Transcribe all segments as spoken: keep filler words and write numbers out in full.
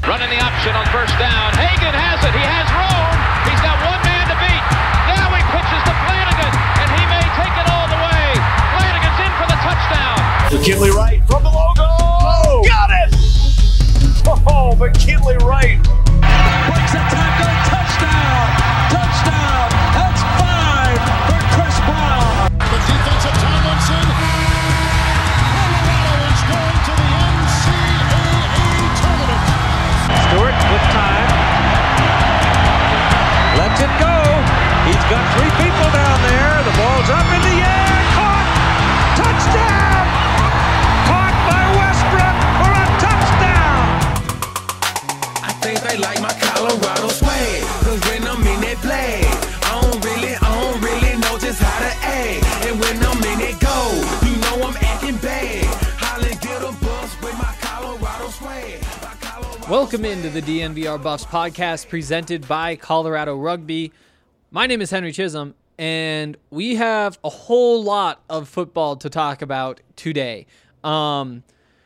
Running the option on first down. Hagan has it. He has room. He's got one man to beat. Now he pitches to Flanagan, and he may take it all the way. Flanagan's in for the touchdown. McKinley Wright from the logo. Oh, got it! Oh, McKinley Wright. Breaks a tackle. Touchdown. Touchdown. That's five for Chris Brown. The defense of Tomlinson. Colorado is going to the N C double A tournament. Stewart with time. Lets it go. He's got three people down there. The ball's up in the air. Caught. Touchdown. Caught by Westbrook for a touchdown. I think they like my Colorado swag. Cause when I'm in that play, I don't really, I don't really know just how to act. And when I'm in it go, you know I'm acting bad. Holly get a bus with my Colorado swag. My Colorado Welcome into the D N V R Buffs podcast presented by Colorado Rugby. My name is Henry Chisholm, and we have a whole lot of football to talk about today. Um,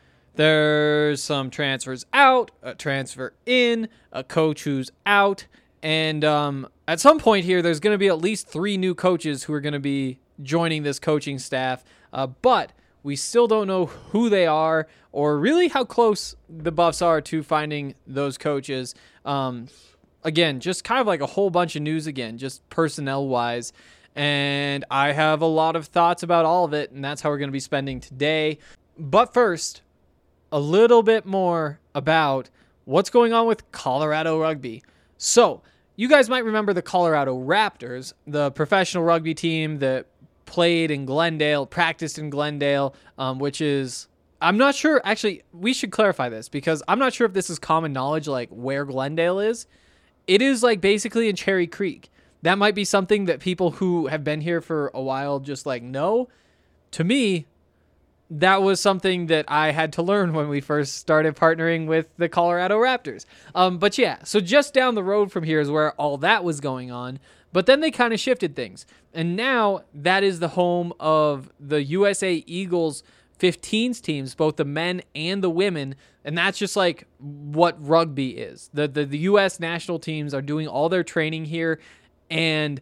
there's some transfers out, a transfer in, a coach who's out, and um, at some point here, there's going to be at least three new coaches who are going to be joining this coaching staff, uh, but we still don't know who they are or really how close the Buffs are to finding those coaches. Um, again, just kind of like a whole bunch of news again, just personnel-wise. And I have a lot of thoughts about all of it, and that's how we're going to be spending today. But first, a little bit more about what's going on with Colorado Rugby. So, you guys might remember the Colorado Raptors, the professional rugby team that played in Glendale, practiced in Glendale, um, which is, I'm not sure, actually, we should clarify this because I'm not sure if this is common knowledge, like where Glendale is. It is like basically in Cherry Creek. That might be something that people who have been here for a while just like know. To me, that was something that I had to learn when we first started partnering with the Colorado Raptors. Um, but yeah, so just down the road from here is where all that was going on. But then they kind of shifted things. And now that is the home of the U S A Eagles fifteens teams, both the men and the women. And that's just like what rugby is. The, the, the U S national teams are doing all their training here. And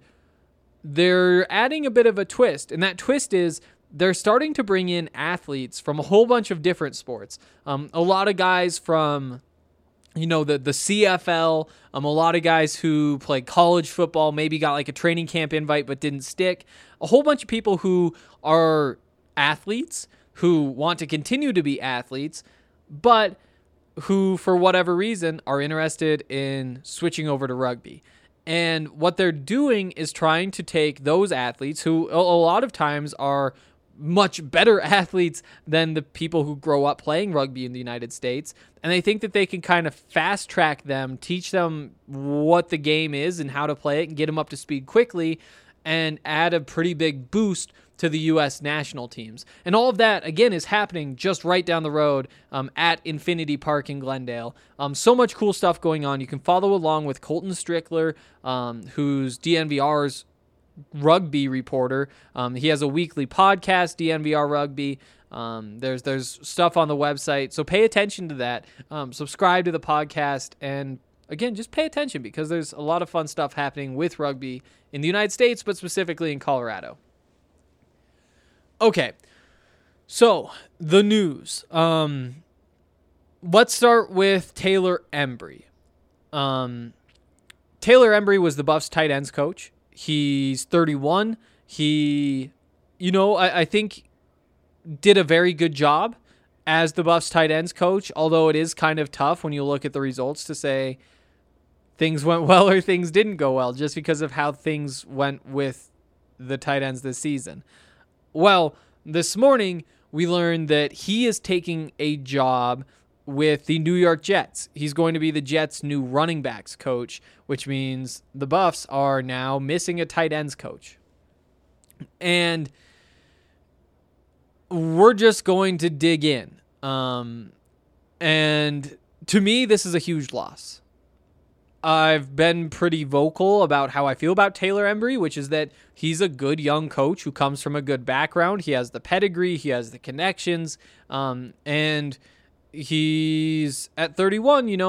they're adding a bit of a twist. And that twist is they're starting to bring in athletes from a whole bunch of different sports. Um, a lot of guys from, you know, the, the C F L, um, a lot of guys who play college football, maybe got like a training camp invite but didn't stick. A whole bunch of people who are athletes, who want to continue to be athletes, but who, for whatever reason, are interested in switching over to rugby. And what they're doing is trying to take those athletes who a lot of times are much better athletes than the people who grow up playing rugby in the United States. And they think that they can kind of fast track them, teach them what the game is and how to play it and get them up to speed quickly and add a pretty big boost to the U S national teams. And all of that, again, is happening just right down the road um, at Infinity Park in Glendale. Um, so much cool stuff going on. You can follow along with Colton Strickler, um, who's D N V R's rugby reporter. Um, he has a weekly podcast, D N V R Rugby. Um, there's there's stuff on the website, so pay attention to that. Um, subscribe to the podcast, and again, just pay attention because there's a lot of fun stuff happening with rugby in the United States, but specifically in Colorado. Okay, so the news. Um, let's start with Taylor Embry. Um, Taylor Embry was the Buffs tight ends coach. He's thirty-one. He, you know, I, I think did a very good job as the Buffs tight ends coach, although it is kind of tough when you look at the results to say things went well or things didn't go well just because of how things went with the tight ends this season. Well, this morning we learned that he is taking a job with the New York Jets. He's going to be the Jets' new running backs coach, which means the Buffs are now missing a tight ends coach. And we're just going to dig in. Um, and to me, this is a huge loss. I've been pretty vocal about how I feel about Taylor Embry, which is that he's a good young coach who comes from a good background. He has the pedigree, he has the connections, um, and he's at thirty-one, you know,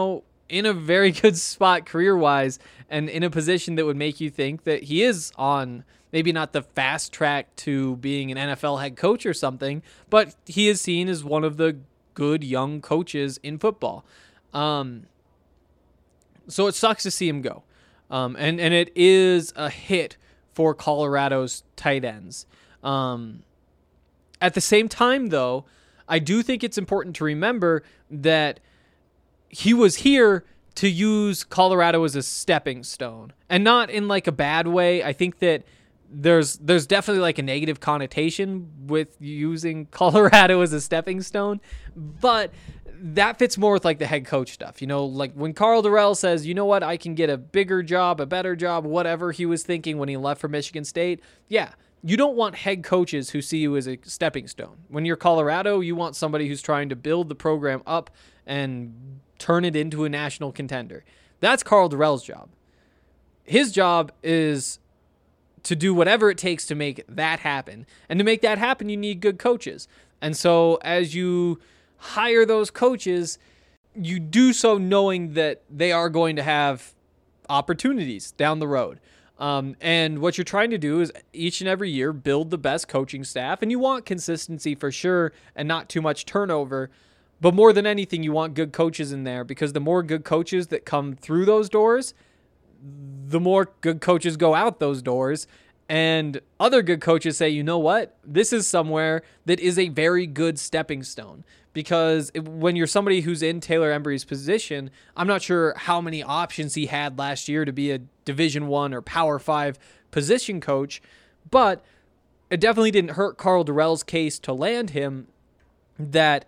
in a very good spot career-wise and in a position that would make you think that he is on maybe not the fast track to being an N F L head coach or something, but he is seen as one of the good young coaches in football. Um, so it sucks to see him go. Um, and, and it is a hit for Colorado's tight ends. Um, at the same time, though, I do think it's important to remember that he was here to use Colorado as a stepping stone, and not in like a bad way. I think that there's there's definitely like a negative connotation with using Colorado as a stepping stone, but that fits more with like the head coach stuff. You know, like when Karl Dorrell says, you know what, I can get a bigger job, a better job, whatever he was thinking when he left for Michigan State. Yeah, you don't want head coaches who see you as a stepping stone. When you're Colorado, you want somebody who's trying to build the program up and turn it into a national contender. That's Karl Dorrell's job. His job is to do whatever it takes to make that happen. And to make that happen, you need good coaches. And so as you hire those coaches, you do so knowing that they are going to have opportunities down the road. Um, and what you're trying to do is each and every year build the best coaching staff, and you want consistency for sure and not too much turnover. But more than anything, you want good coaches in there, because the more good coaches that come through those doors, the more good coaches go out those doors. And other good coaches say, you know what, this is somewhere that is a very good stepping stone. Because when you're somebody who's in Taylor Embry's position, I'm not sure how many options he had last year to be a Division One or Power Five position coach, but it definitely didn't hurt Karl Dorrell's case to land him that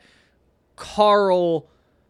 Karl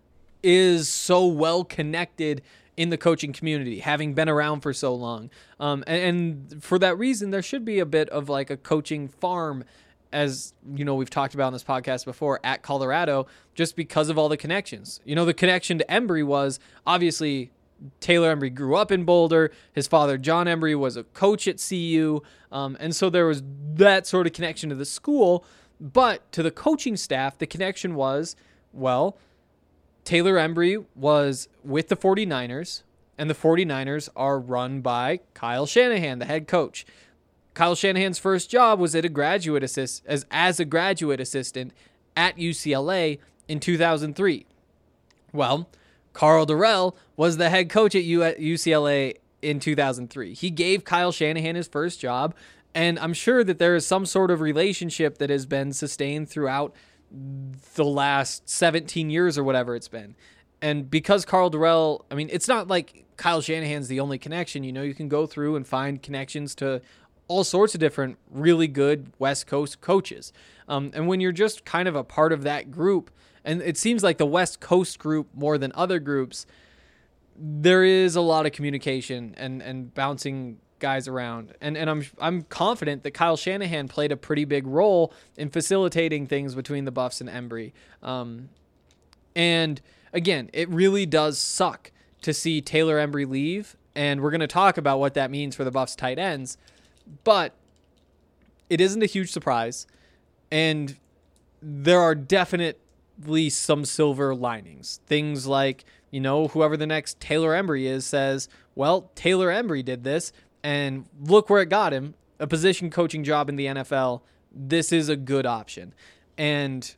is so well connected in the coaching community, having been around for so long. Um, and, and for that reason, there should be a bit of like a coaching farm, as you know, we've talked about on this podcast before, at Colorado, just because of all the connections. You know, the connection to Embry was obviously Taylor Embry grew up in Boulder. His father, John Embry, was a coach at C U. Um, and so there was that sort of connection to the school. But to the coaching staff, the connection was, well, Taylor Embry was with the 49ers, and the 49ers are run by Kyle Shanahan, the head coach. Kyle Shanahan's first job was at a graduate assist as as a graduate assistant at U C L A in two thousand three. Well, Karl Dorrell was the head coach at U C L A in two thousand three. He gave Kyle Shanahan his first job, and I'm sure that there is some sort of relationship that has been sustained throughout the last seventeen years or whatever it's been. And because Karl Dorrell, I mean, it's not like Kyle Shanahan's the only connection. You know, you can go through and find connections to all sorts of different really good West Coast coaches. Um, and when you're just kind of a part of that group, and it seems like the West Coast group more than other groups, there is a lot of communication and, and bouncing guys around. And and I'm I'm confident that Kyle Shanahan played a pretty big role in facilitating things between the Buffs and Embry. Um, and again, it really does suck to see Taylor Embry leave, and we're going to talk about what that means for the Buffs tight ends. But it isn't a huge surprise, and there are definitely some silver linings. Things like, you know, whoever the next Taylor Embry is says, well, Taylor Embry did this, and look where it got him, a position coaching job in the N F L. This is a good option. And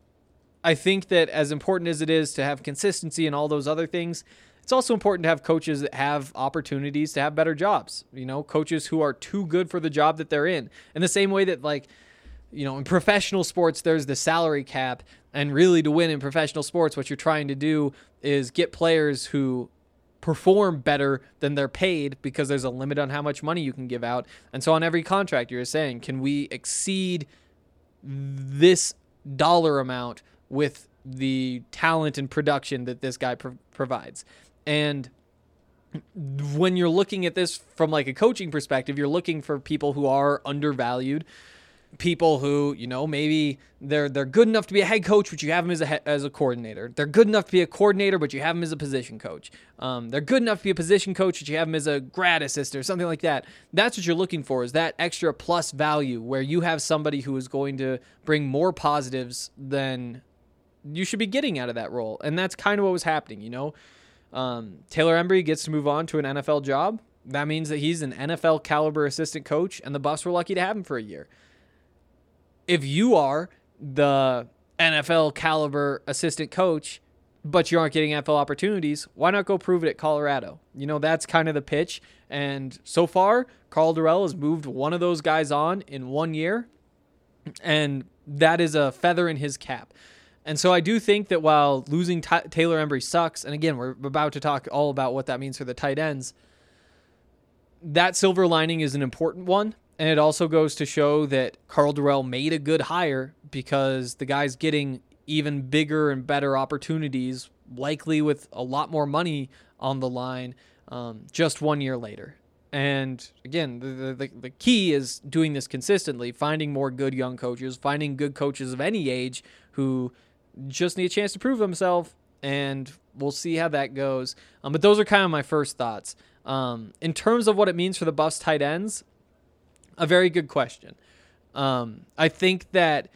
I think that as important as it is to have consistency and all those other things, it's also important to have coaches that have opportunities to have better jobs. You know, coaches who are too good for the job that they're in. In the same way that, like, you know, in professional sports, there's the salary cap. And really, to win in professional sports, what you're trying to do is get players who perform better than they're paid, because there's a limit on how much money you can give out. And so on every contract, you're saying, can we exceed this dollar amount with the talent and production that this guy pro- provides? And when you're looking at this from like a coaching perspective, you're looking for people who are undervalued, people who, you know, maybe they're they're good enough to be a head coach, but you have them as a he- as a coordinator. They're good enough to be a coordinator, but you have them as a position coach. Um, they're good enough to be a position coach, but you have them as a grad assistant or something like that. That's what you're looking for, is that extra plus value where you have somebody who is going to bring more positives than you should be getting out of that role. And that's kind of what was happening, you know. Um, Taylor Embry gets to move on to an N F L job. That means that he's an N F L caliber assistant coach, and the Buffs were lucky to have him for a year. If you are the N F L caliber assistant coach, but you aren't getting N F L opportunities, why not go prove it at Colorado? You know, that's kind of the pitch. And so far, Karl Dorrell has moved one of those guys on in one year, and that is a feather in his cap. And so I do think that while losing T- Taylor Embry sucks, and again, we're about to talk all about what that means for the tight ends, that silver lining is an important one. And it also goes to show that Karl Dorrell made a good hire because the guy's getting even bigger and better opportunities, likely with a lot more money on the line, um, just one year later. And again, the, the the key is doing this consistently, finding more good young coaches, finding good coaches of any age who just need a chance to prove themselves, and we'll see how that goes. Um, but those are kind of my first thoughts. Um, in terms of what it means for the Buffs tight ends, a very good question. Um, I think that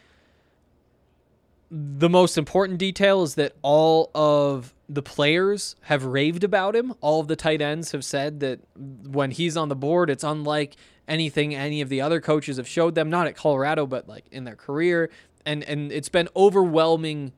the most important detail is that all of the players have raved about him. All of the tight ends have said that when he's on the board, it's unlike anything any of the other coaches have showed them, not at Colorado, but like in their career. And and it's been overwhelming,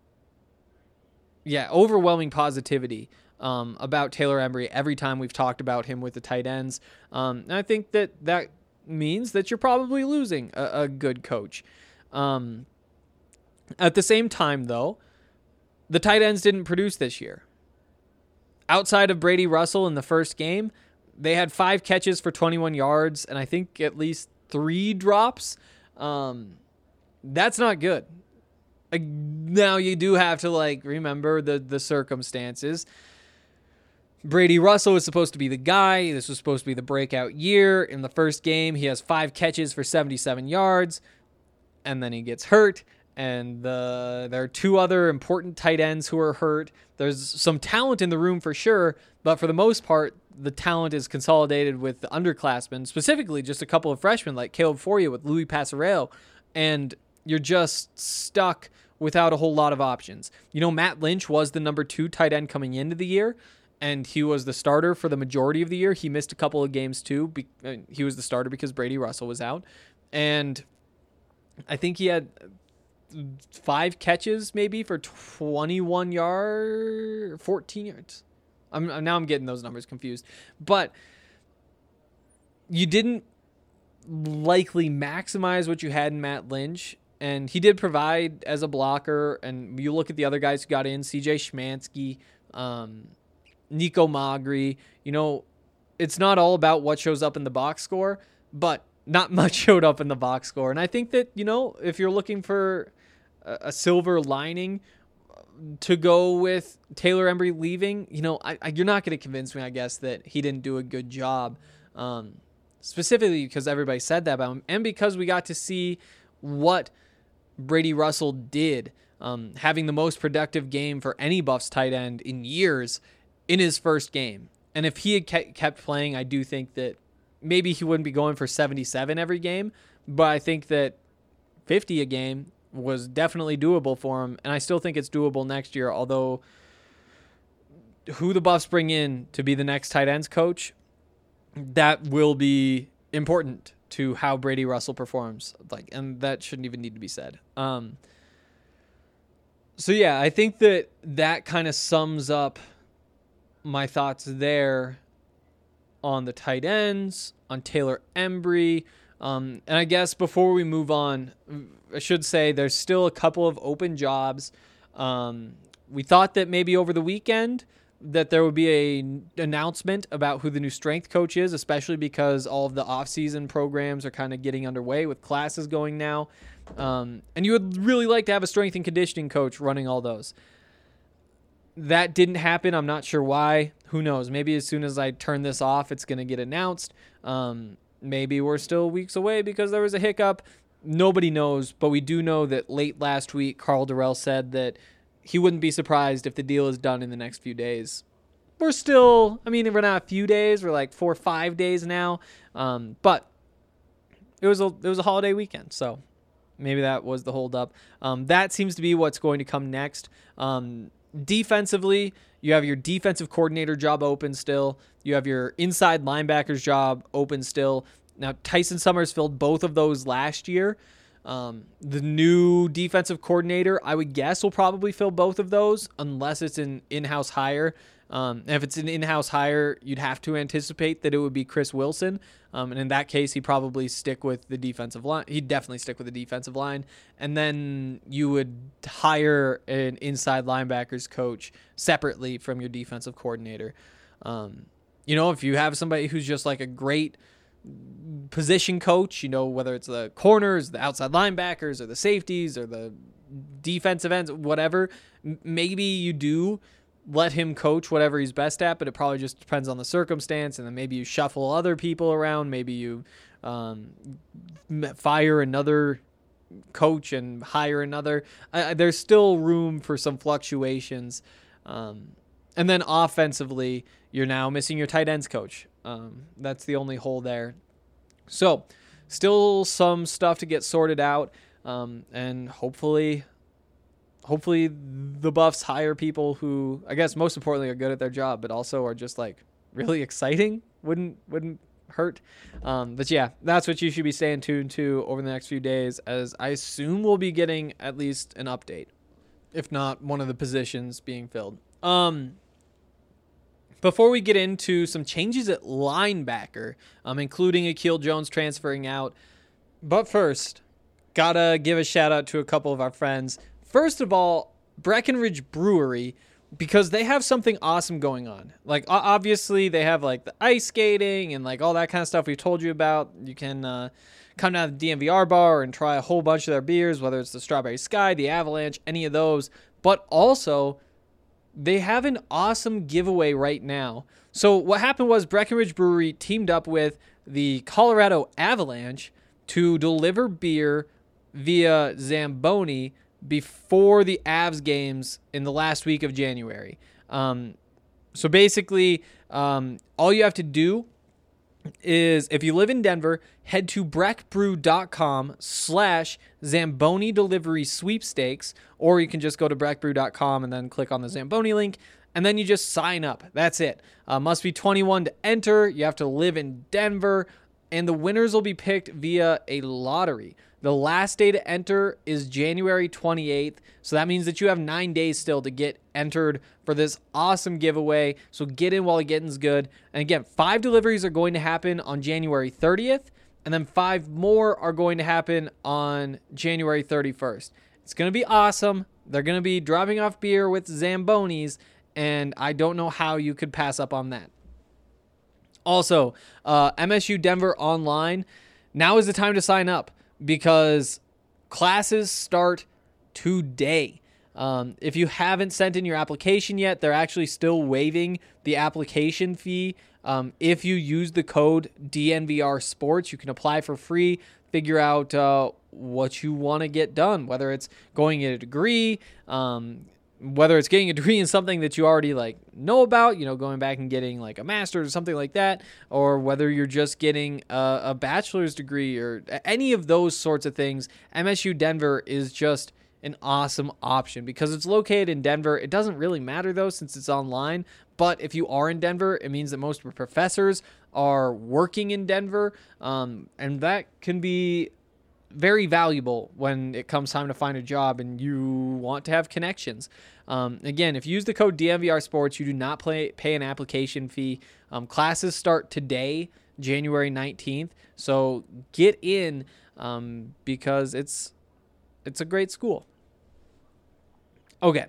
yeah, overwhelming positivity um, about Taylor Embry every time we've talked about him with the tight ends. Um, and I think that that means that you're probably losing a, a good coach. Um, at the same time, though, the tight ends didn't produce this year. Outside of Brady Russell in the first game, they had five catches for twenty-one yards and I think at least three drops. Um, that's not good. Like, now you do have to like remember the the circumstances. Brady Russell was supposed to be the guy. This was supposed to be the breakout year. In the first game, he has five catches for seventy-seven yards, and then he gets hurt. And the, there are two other important tight ends who are hurt. There's some talent in the room for sure, but for the most part, the talent is consolidated with the underclassmen, specifically just a couple of freshmen like Caleb Fourier with Louis Passarello, and you're just stuck without a whole lot of options. You know, Matt Lynch was the number two tight end coming into the year, and he was the starter for the majority of the year. He missed a couple of games too. He was the starter because Brady Russell was out, and I think he had five catches maybe for twenty-one yards, fourteen yards. I'm now I'm getting those numbers confused, but you didn't likely maximize what you had in Matt Lynch, and he did provide as a blocker. And you look at the other guys who got in, C J Schmansky, um, Nico Magri. You know, it's not all about what shows up in the box score, but not much showed up in the box score. And I think that, you know, if you're looking for a silver lining to go with Taylor Embry leaving, you know, I, I, you're not going to convince me, I guess, that he didn't do a good job, um, specifically because everybody said that about him, and because we got to see what Brady Russell did, um, having the most productive game for any Buffs tight end in years in his first game. And if he had ke- kept playing, I do think that maybe he wouldn't be going for seventy-seven every game, but I think that fifty a game was definitely doable for him, and I still think it's doable next year, although who the Buffs bring in to be the next tight ends coach, that will be important to how Brady Russell performs, like, and that shouldn't even need to be said. Um, so yeah, I think that that kind of sums up my thoughts there on the tight ends, on Taylor Embry. Um, and I guess before we move on, I should say there's still a couple of open jobs. Um, we thought that maybe over the weekend that there would be a n- announcement about who the new strength coach is, especially because all of the off-season programs are kind of getting underway with classes going now. Um, and you would really like to have a strength and conditioning coach running all those. That didn't happen. I'm not sure why. Who knows? Maybe as soon as I turn this off, it's going to get announced. Um, maybe we're still weeks away because there was a hiccup. Nobody knows, but we do know that late last week, Karl Dorrell said that he wouldn't be surprised if the deal is done in the next few days. We're still, I mean, we're not a few days. We're like four or five days now. Um, but it was a it was a holiday weekend, so maybe that was the holdup. Um, that seems to be what's going to come next. Um, defensively, You have your defensive coordinator job open still. You have your inside linebackers job open still. Now, Tyson Summers filled both of those last year. Um, the new defensive coordinator, I would guess, will probably fill both of those unless it's an in-house hire. Um, and if it's an in-house hire, you'd have to anticipate that it would be Chris Wilson. Um, and in that case, he'd probably stick with the defensive line. He'd definitely stick with the defensive line. And then you would hire an inside linebackers coach separately from your defensive coordinator. Um, you know, if you have somebody who's just like a great position coach, you know, whether it's the corners, the outside linebackers, or the safeties, or the defensive ends, whatever, maybe you do let him coach whatever he's best at, but it probably just depends on the circumstance. And then maybe you shuffle other people around. Maybe you um, fire another coach and hire another. Uh, there's still room for some fluctuations. Um, and then offensively, you're now missing your tight ends coach. Um, that's the only hole there. So still some stuff to get sorted out. Um, and hopefully... Hopefully the Buffs hire people who, I guess most importantly, are good at their job, but also are just like really exciting. Wouldn't wouldn't hurt. Um, but yeah, that's what you should be staying tuned to over the next few days, as I assume we'll be getting at least an update, if not one of the positions being filled. Um, before we get into some changes at linebacker, um, including Akil Jones transferring out, but first, gotta give a shout out to a couple of our friends. First of all, Breckenridge Brewery, because they have something awesome going on. Like, obviously, they have, like, the ice skating and, like, all that kind of stuff we've told you about. You can uh, come down to the D N V R bar and try a whole bunch of their beers, whether it's the Strawberry Sky, the Avalanche, any of those. But also, they have an awesome giveaway right now. So what happened was Breckenridge Brewery teamed up with the Colorado Avalanche to deliver beer via Zamboni before the Avs games in the last week of January. Um, so basically, um, all you have to do is, if you live in Denver, head to breckbrew.com slash Zamboni delivery sweepstakes, or you can just go to breckbrew dot com and then click on the Zamboni link, and then you just sign up. That's it. Uh, must be twenty-one to enter. You have to live in Denver, and the winners will be picked via a lottery. The last day to enter is January twenty-eighth, so that means that you have nine days still to get entered for this awesome giveaway. So get in while the getting's good. And again, five deliveries are going to happen on January thirtieth, and then five more are going to happen on January thirty-first. It's going to be awesome. They're going to be dropping off beer with Zambonis, and I don't know how you could pass up on that. Also, uh, M S U Denver Online, now is the time to sign up, because classes start today. Um, if you haven't sent in your application yet, they're actually still waiving the application fee. Um, if you use the code D N V R Sports, you can apply for free, figure out uh, what you want to get done, whether it's going get a degree, um, whether it's getting a degree in something that you already like know about, you know, going back and getting like a master's or something like that, or whether you're just getting a, a bachelor's degree or any of those sorts of things. M S U Denver is just an awesome option because it's located in Denver. It doesn't really matter though, since it's online, but if you are in Denver, it means that most professors are working in Denver, um, and that can be very valuable when it comes time to find a job and you want to have connections. Um, again, if you use the code D N V R Sports, you do not pay, pay an application fee. Um, classes start today, January nineteenth. So get in um, because it's it's a great school. Okay.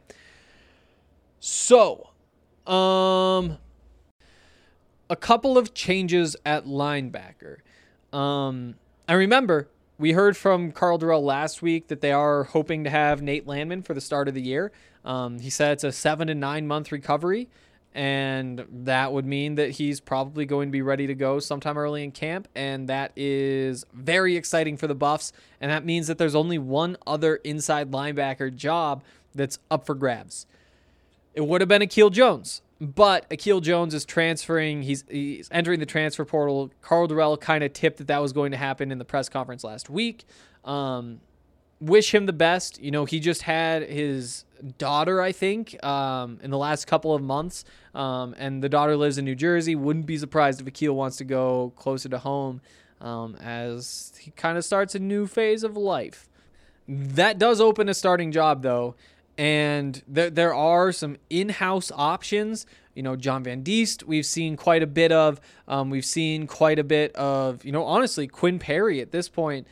So, um, a couple of changes at linebacker. Um, I remember we heard from Carl Durrell last week that they are hoping to have Nate Landman for the start of the year. Um, he said it's a seven to nine month recovery, and that would mean that he's probably going to be ready to go sometime early in camp, and that is very exciting for the Buffs, and that means that there's only one other inside linebacker job that's up for grabs. It would have been Akil Jones, but Akil Jones is transferring. He's, he's entering the transfer portal. Carl Durrell kind of tipped that that was going to happen in the press conference last week. Um, wish him the best. You know, he just had his daughter, I think, um, in the last couple of months, um, and the daughter lives in New Jersey. Wouldn't be surprised if Akil wants to go closer to home um, as he kind of starts a new phase of life. That does open a starting job, though, and there there are some in-house options. You know, John Van Diest, we've seen quite a bit of. Um, we've seen quite a bit of, you know, honestly, Quinn Perry at this point.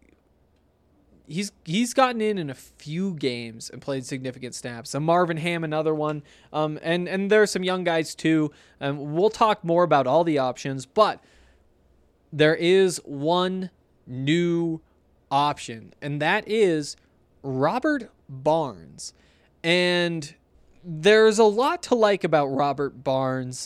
He's he's gotten in in a few games and played significant snaps. And Marvin Ham, another one. Um, and, and there are some young guys, too. Um, we'll talk more about all the options, but there is one new option, and that is Robert Barnes. And there's a lot to like about Robert Barnes.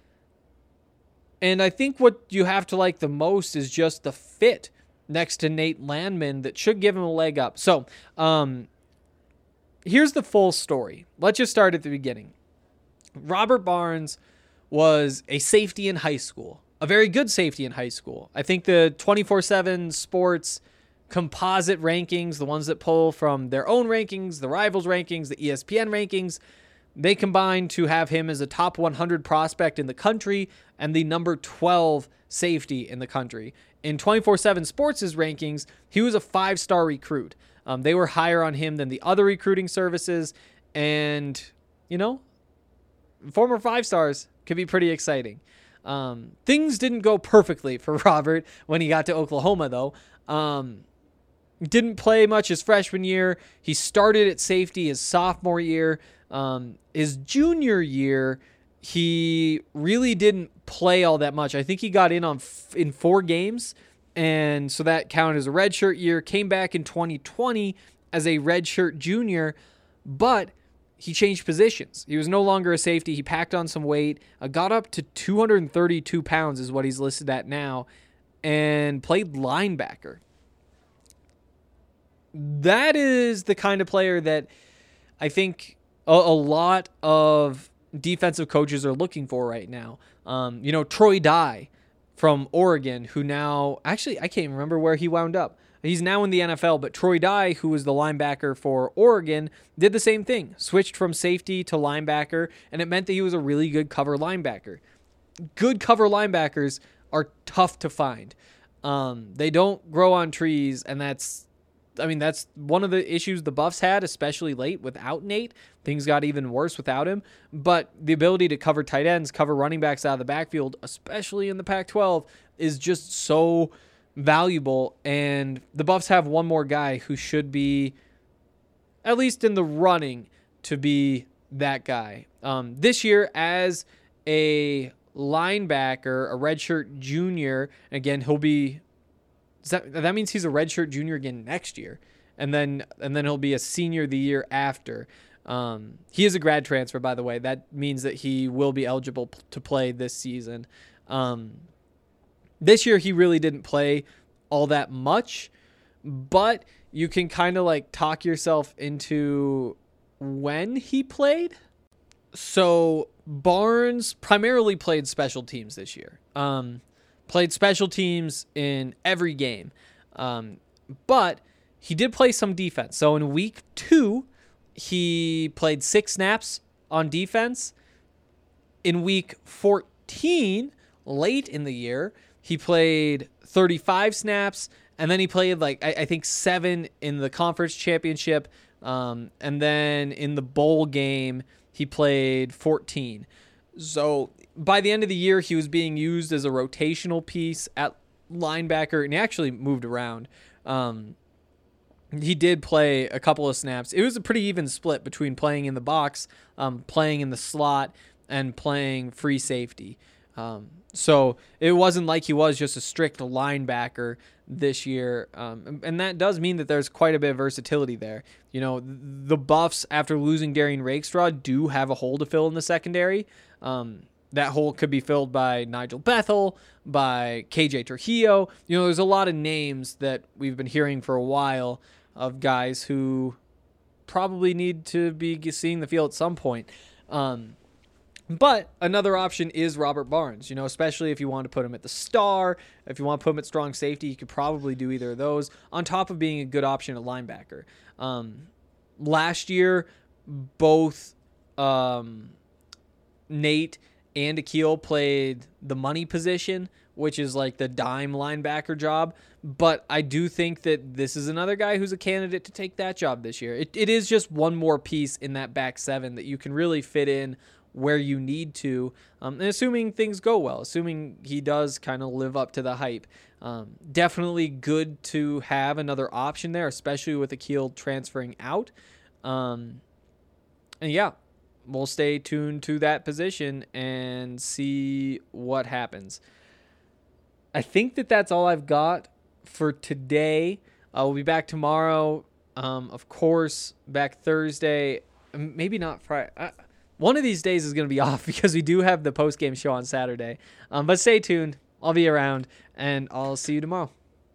And I think what you have to like the most is just the fit next to Nate Landman that should give him a leg up. So, um, here's the full story. Let's just start at the beginning. Robert Barnes was a safety in high school, a very good safety in high school. I think the twenty-four seven Sports composite rankings, the ones that pull from their own rankings, the Rivals rankings, the E S P N rankings, they combine to have him as a top one hundred prospect in the country and the number twelve safety in the country. In twenty-four seven Sports' rankings, he was a five-star recruit. Um, they were higher on him than the other recruiting services, and, you know, former five stars could be pretty exciting. Um, things didn't go perfectly for Robert when he got to Oklahoma, though. Um, didn't play much his freshman year. He started at safety his sophomore year. Um, his junior year, he really didn't play all that much. I think he got in on f- in four games, and so that counted as a redshirt year. Came back in twenty twenty as a redshirt junior, but he changed positions. He was no longer a safety. He packed on some weight, uh, got up to two hundred thirty-two pounds is what he's listed at now, and played linebacker. That is the kind of player that I think a, a lot of defensive coaches are looking for right now. Um, you know, Troy Dye from Oregon, who now, actually, I can't even remember where he wound up. He's now in the N F L, but Troy Dye, who was the linebacker for Oregon, did the same thing. Switched from safety to linebacker, and it meant that he was a really good cover linebacker. Good cover linebackers are tough to find. Um, they don't grow on trees, and that's I mean, that's one of the issues the Buffs had, especially late without Nate. Things got even worse without him. But the ability to cover tight ends, cover running backs out of the backfield, especially in the Pac twelve, is just so valuable. And the Buffs have one more guy who should be, at least in the running, to be that guy. Um, this year, as a linebacker, a redshirt junior, again, he'll be... That, that means he's a redshirt junior again next year, and then and then he'll be a senior the year after. Um, he is a grad transfer, by the way. That means that he will be eligible p- to play this season. Um, this year he really didn't play all that much, but you can kind of like talk yourself into when he played. So Barnes primarily played special teams this year. Um, Played special teams in every game. Um, but he did play some defense. So in week two, he played six snaps on defense. In week fourteen, late in the year, he played thirty-five snaps. And then he played, like, I, I think seven in the conference championship. Um, and then in the bowl game, he played fourteen. So by the end of the year, he was being used as a rotational piece at linebacker, and he actually moved around. Um, he did play a couple of snaps. It was a pretty even split between playing in the box, um, playing in the slot, and playing free safety. Um, so it wasn't like he was just a strict linebacker this year. Um, and that does mean that there's quite a bit of versatility there. You know, the Buffs, after losing Darian Rakestraw, do have a hole to fill in the secondary. Um, that hole could be filled by Nigel Bethel, by K J Trujillo. You know, there's a lot of names that we've been hearing for a while of guys who probably need to be seeing the field at some point. Um, But another option is Robert Barnes, you know, especially if you want to put him at the star. If you want to put him at strong safety, you could probably do either of those on top of being a good option at linebacker. Um, last year, both um, Nate and Akil played the money position, which is like the dime linebacker job. But I do think that this is another guy who's a candidate to take that job this year. It, it is just one more piece in that back seven that you can really fit in where you need to, um, and assuming things go well, assuming he does kind of live up to the hype. Um, definitely good to have another option there, especially with Akil transferring out. Um, and yeah, we'll stay tuned to that position and see what happens. I think that that's all I've got for today. Uh, we'll be back tomorrow. Um, of course, back Thursday. Maybe not Friday. I, One of these days is going to be off because we do have the post-game show on Saturday. Um, but stay tuned. I'll be around, and I'll see you tomorrow.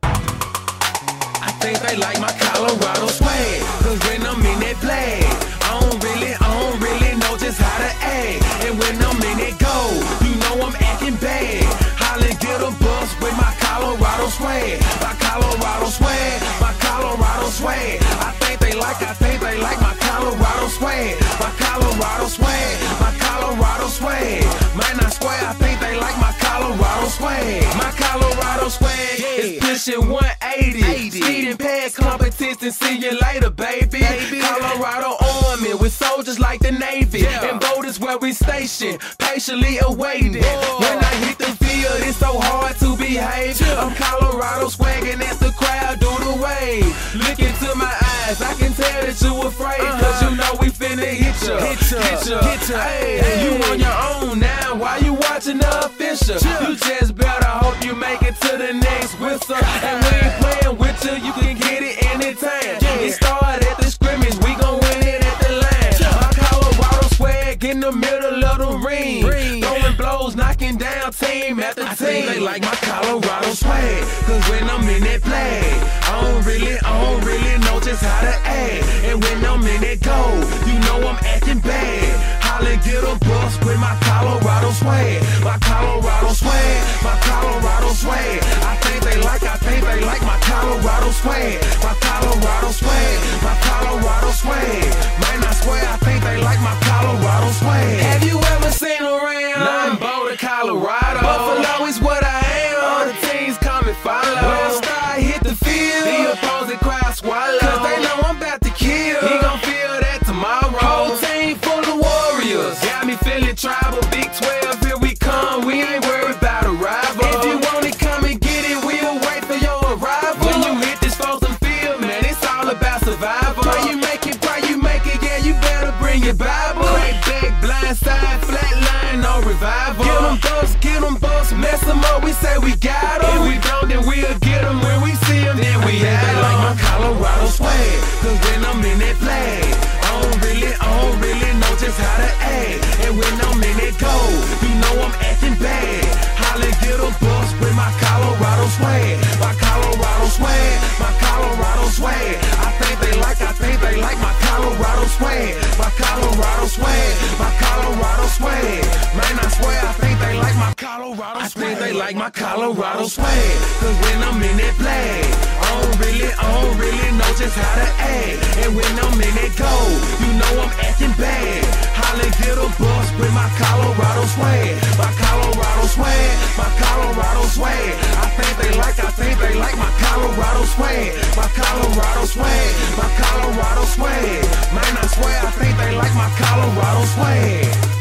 I think they like my Colorado swag, cause when I'm in that flag, I don't really, I don't really know just how to act. And when I'm in that goal, you know I'm acting bad. Holla, get a bus with my Colorado swag, my Colorado swag, my Colorado swag. I think they like, I think they like my Colorado swag, my Colorado swag, my Colorado swag. Man, I swear, I think they like my Colorado swag, my Colorado swag is pushing one eighty. Speeding past competition, see you later, baby. baby. Colorado Army with soldiers like the Navy, yeah. And boat is where we station, patiently awaiting. Whoa. When I hit the field, it's so hard to behave. Yeah. I'm Colorado swagging as the crowd do the wave. Look into my eyes, I can tell that you afraid, uh-huh. Cause you know we finna hit ya, hit ya, hit ya, hit ya. Hey, hey. You on your own now, why you watching the official? Yeah. You just better hope you make it to the next whistle. And we ain't playing with you, you can get it anytime. Yeah. It started at the scrimmage, we gon' win it at the line. Yeah. My Colorado swag in the middle of the ring, ring. Throwing blows, knocking down team after I team. They like my Colorado swag, cause when I'm in that flag, I don't really, I don't really know just how to act. And when I'm in that goal, you know I'm acting bad. Holla, get a bus with my Colorado swag, my Colorado swag, my Colorado swag. I think they like, I think they like my Colorado swag, my Colorado swag, my Colorado swag. Man, I swear, I think they like my Colorado swag. Have you ever seen around? Nothing but Colorado. Buffalo is what I am. All the teams come and follow. When I start hit the field, the opposing crowd swallow. Cause they know I'm about to kill. He gon' feel that tomorrow. Whole team full of warriors. Got me feeling tribal. Big twelve, here we come. We ain't worried about a rival. If you want it, come and get it. We'll wait for your arrival. When you hit this frozen field, man, it's all about survival. Why you make it, why you make it, yeah, you better bring your Bible. Crack back, blind side, flat line, no revival. Get them busts, get them busts, mess them up, we say we got them. If we don't, then we'll get them. When we see them, then we have them. Like my Colorado swag, cause when I'm in that flag, I don't really, I don't really know just how to act. And when I'm in that goal, you know I'm acting bad. Holla, get a bus with my Colorado swag, my Colorado swag, my Colorado swag. I think they like, I think they like my Colorado swag, my Colorado swag, my Colorado swag. Man, I swear, I think they like my Colorado swag. I think they like my Colorado swag, cause when I'm in that flag, I don't really, I don't really know just how to act. And when I'm in that goal, you know I'm acting bad. Holla, get a bus with my Colorado swag, my Colorado swag, my Colorado swag. I think they like, I think they like my Colorado swag, my Colorado swag, my Colorado swag. Man, I swear, I think they like my Colorado swag.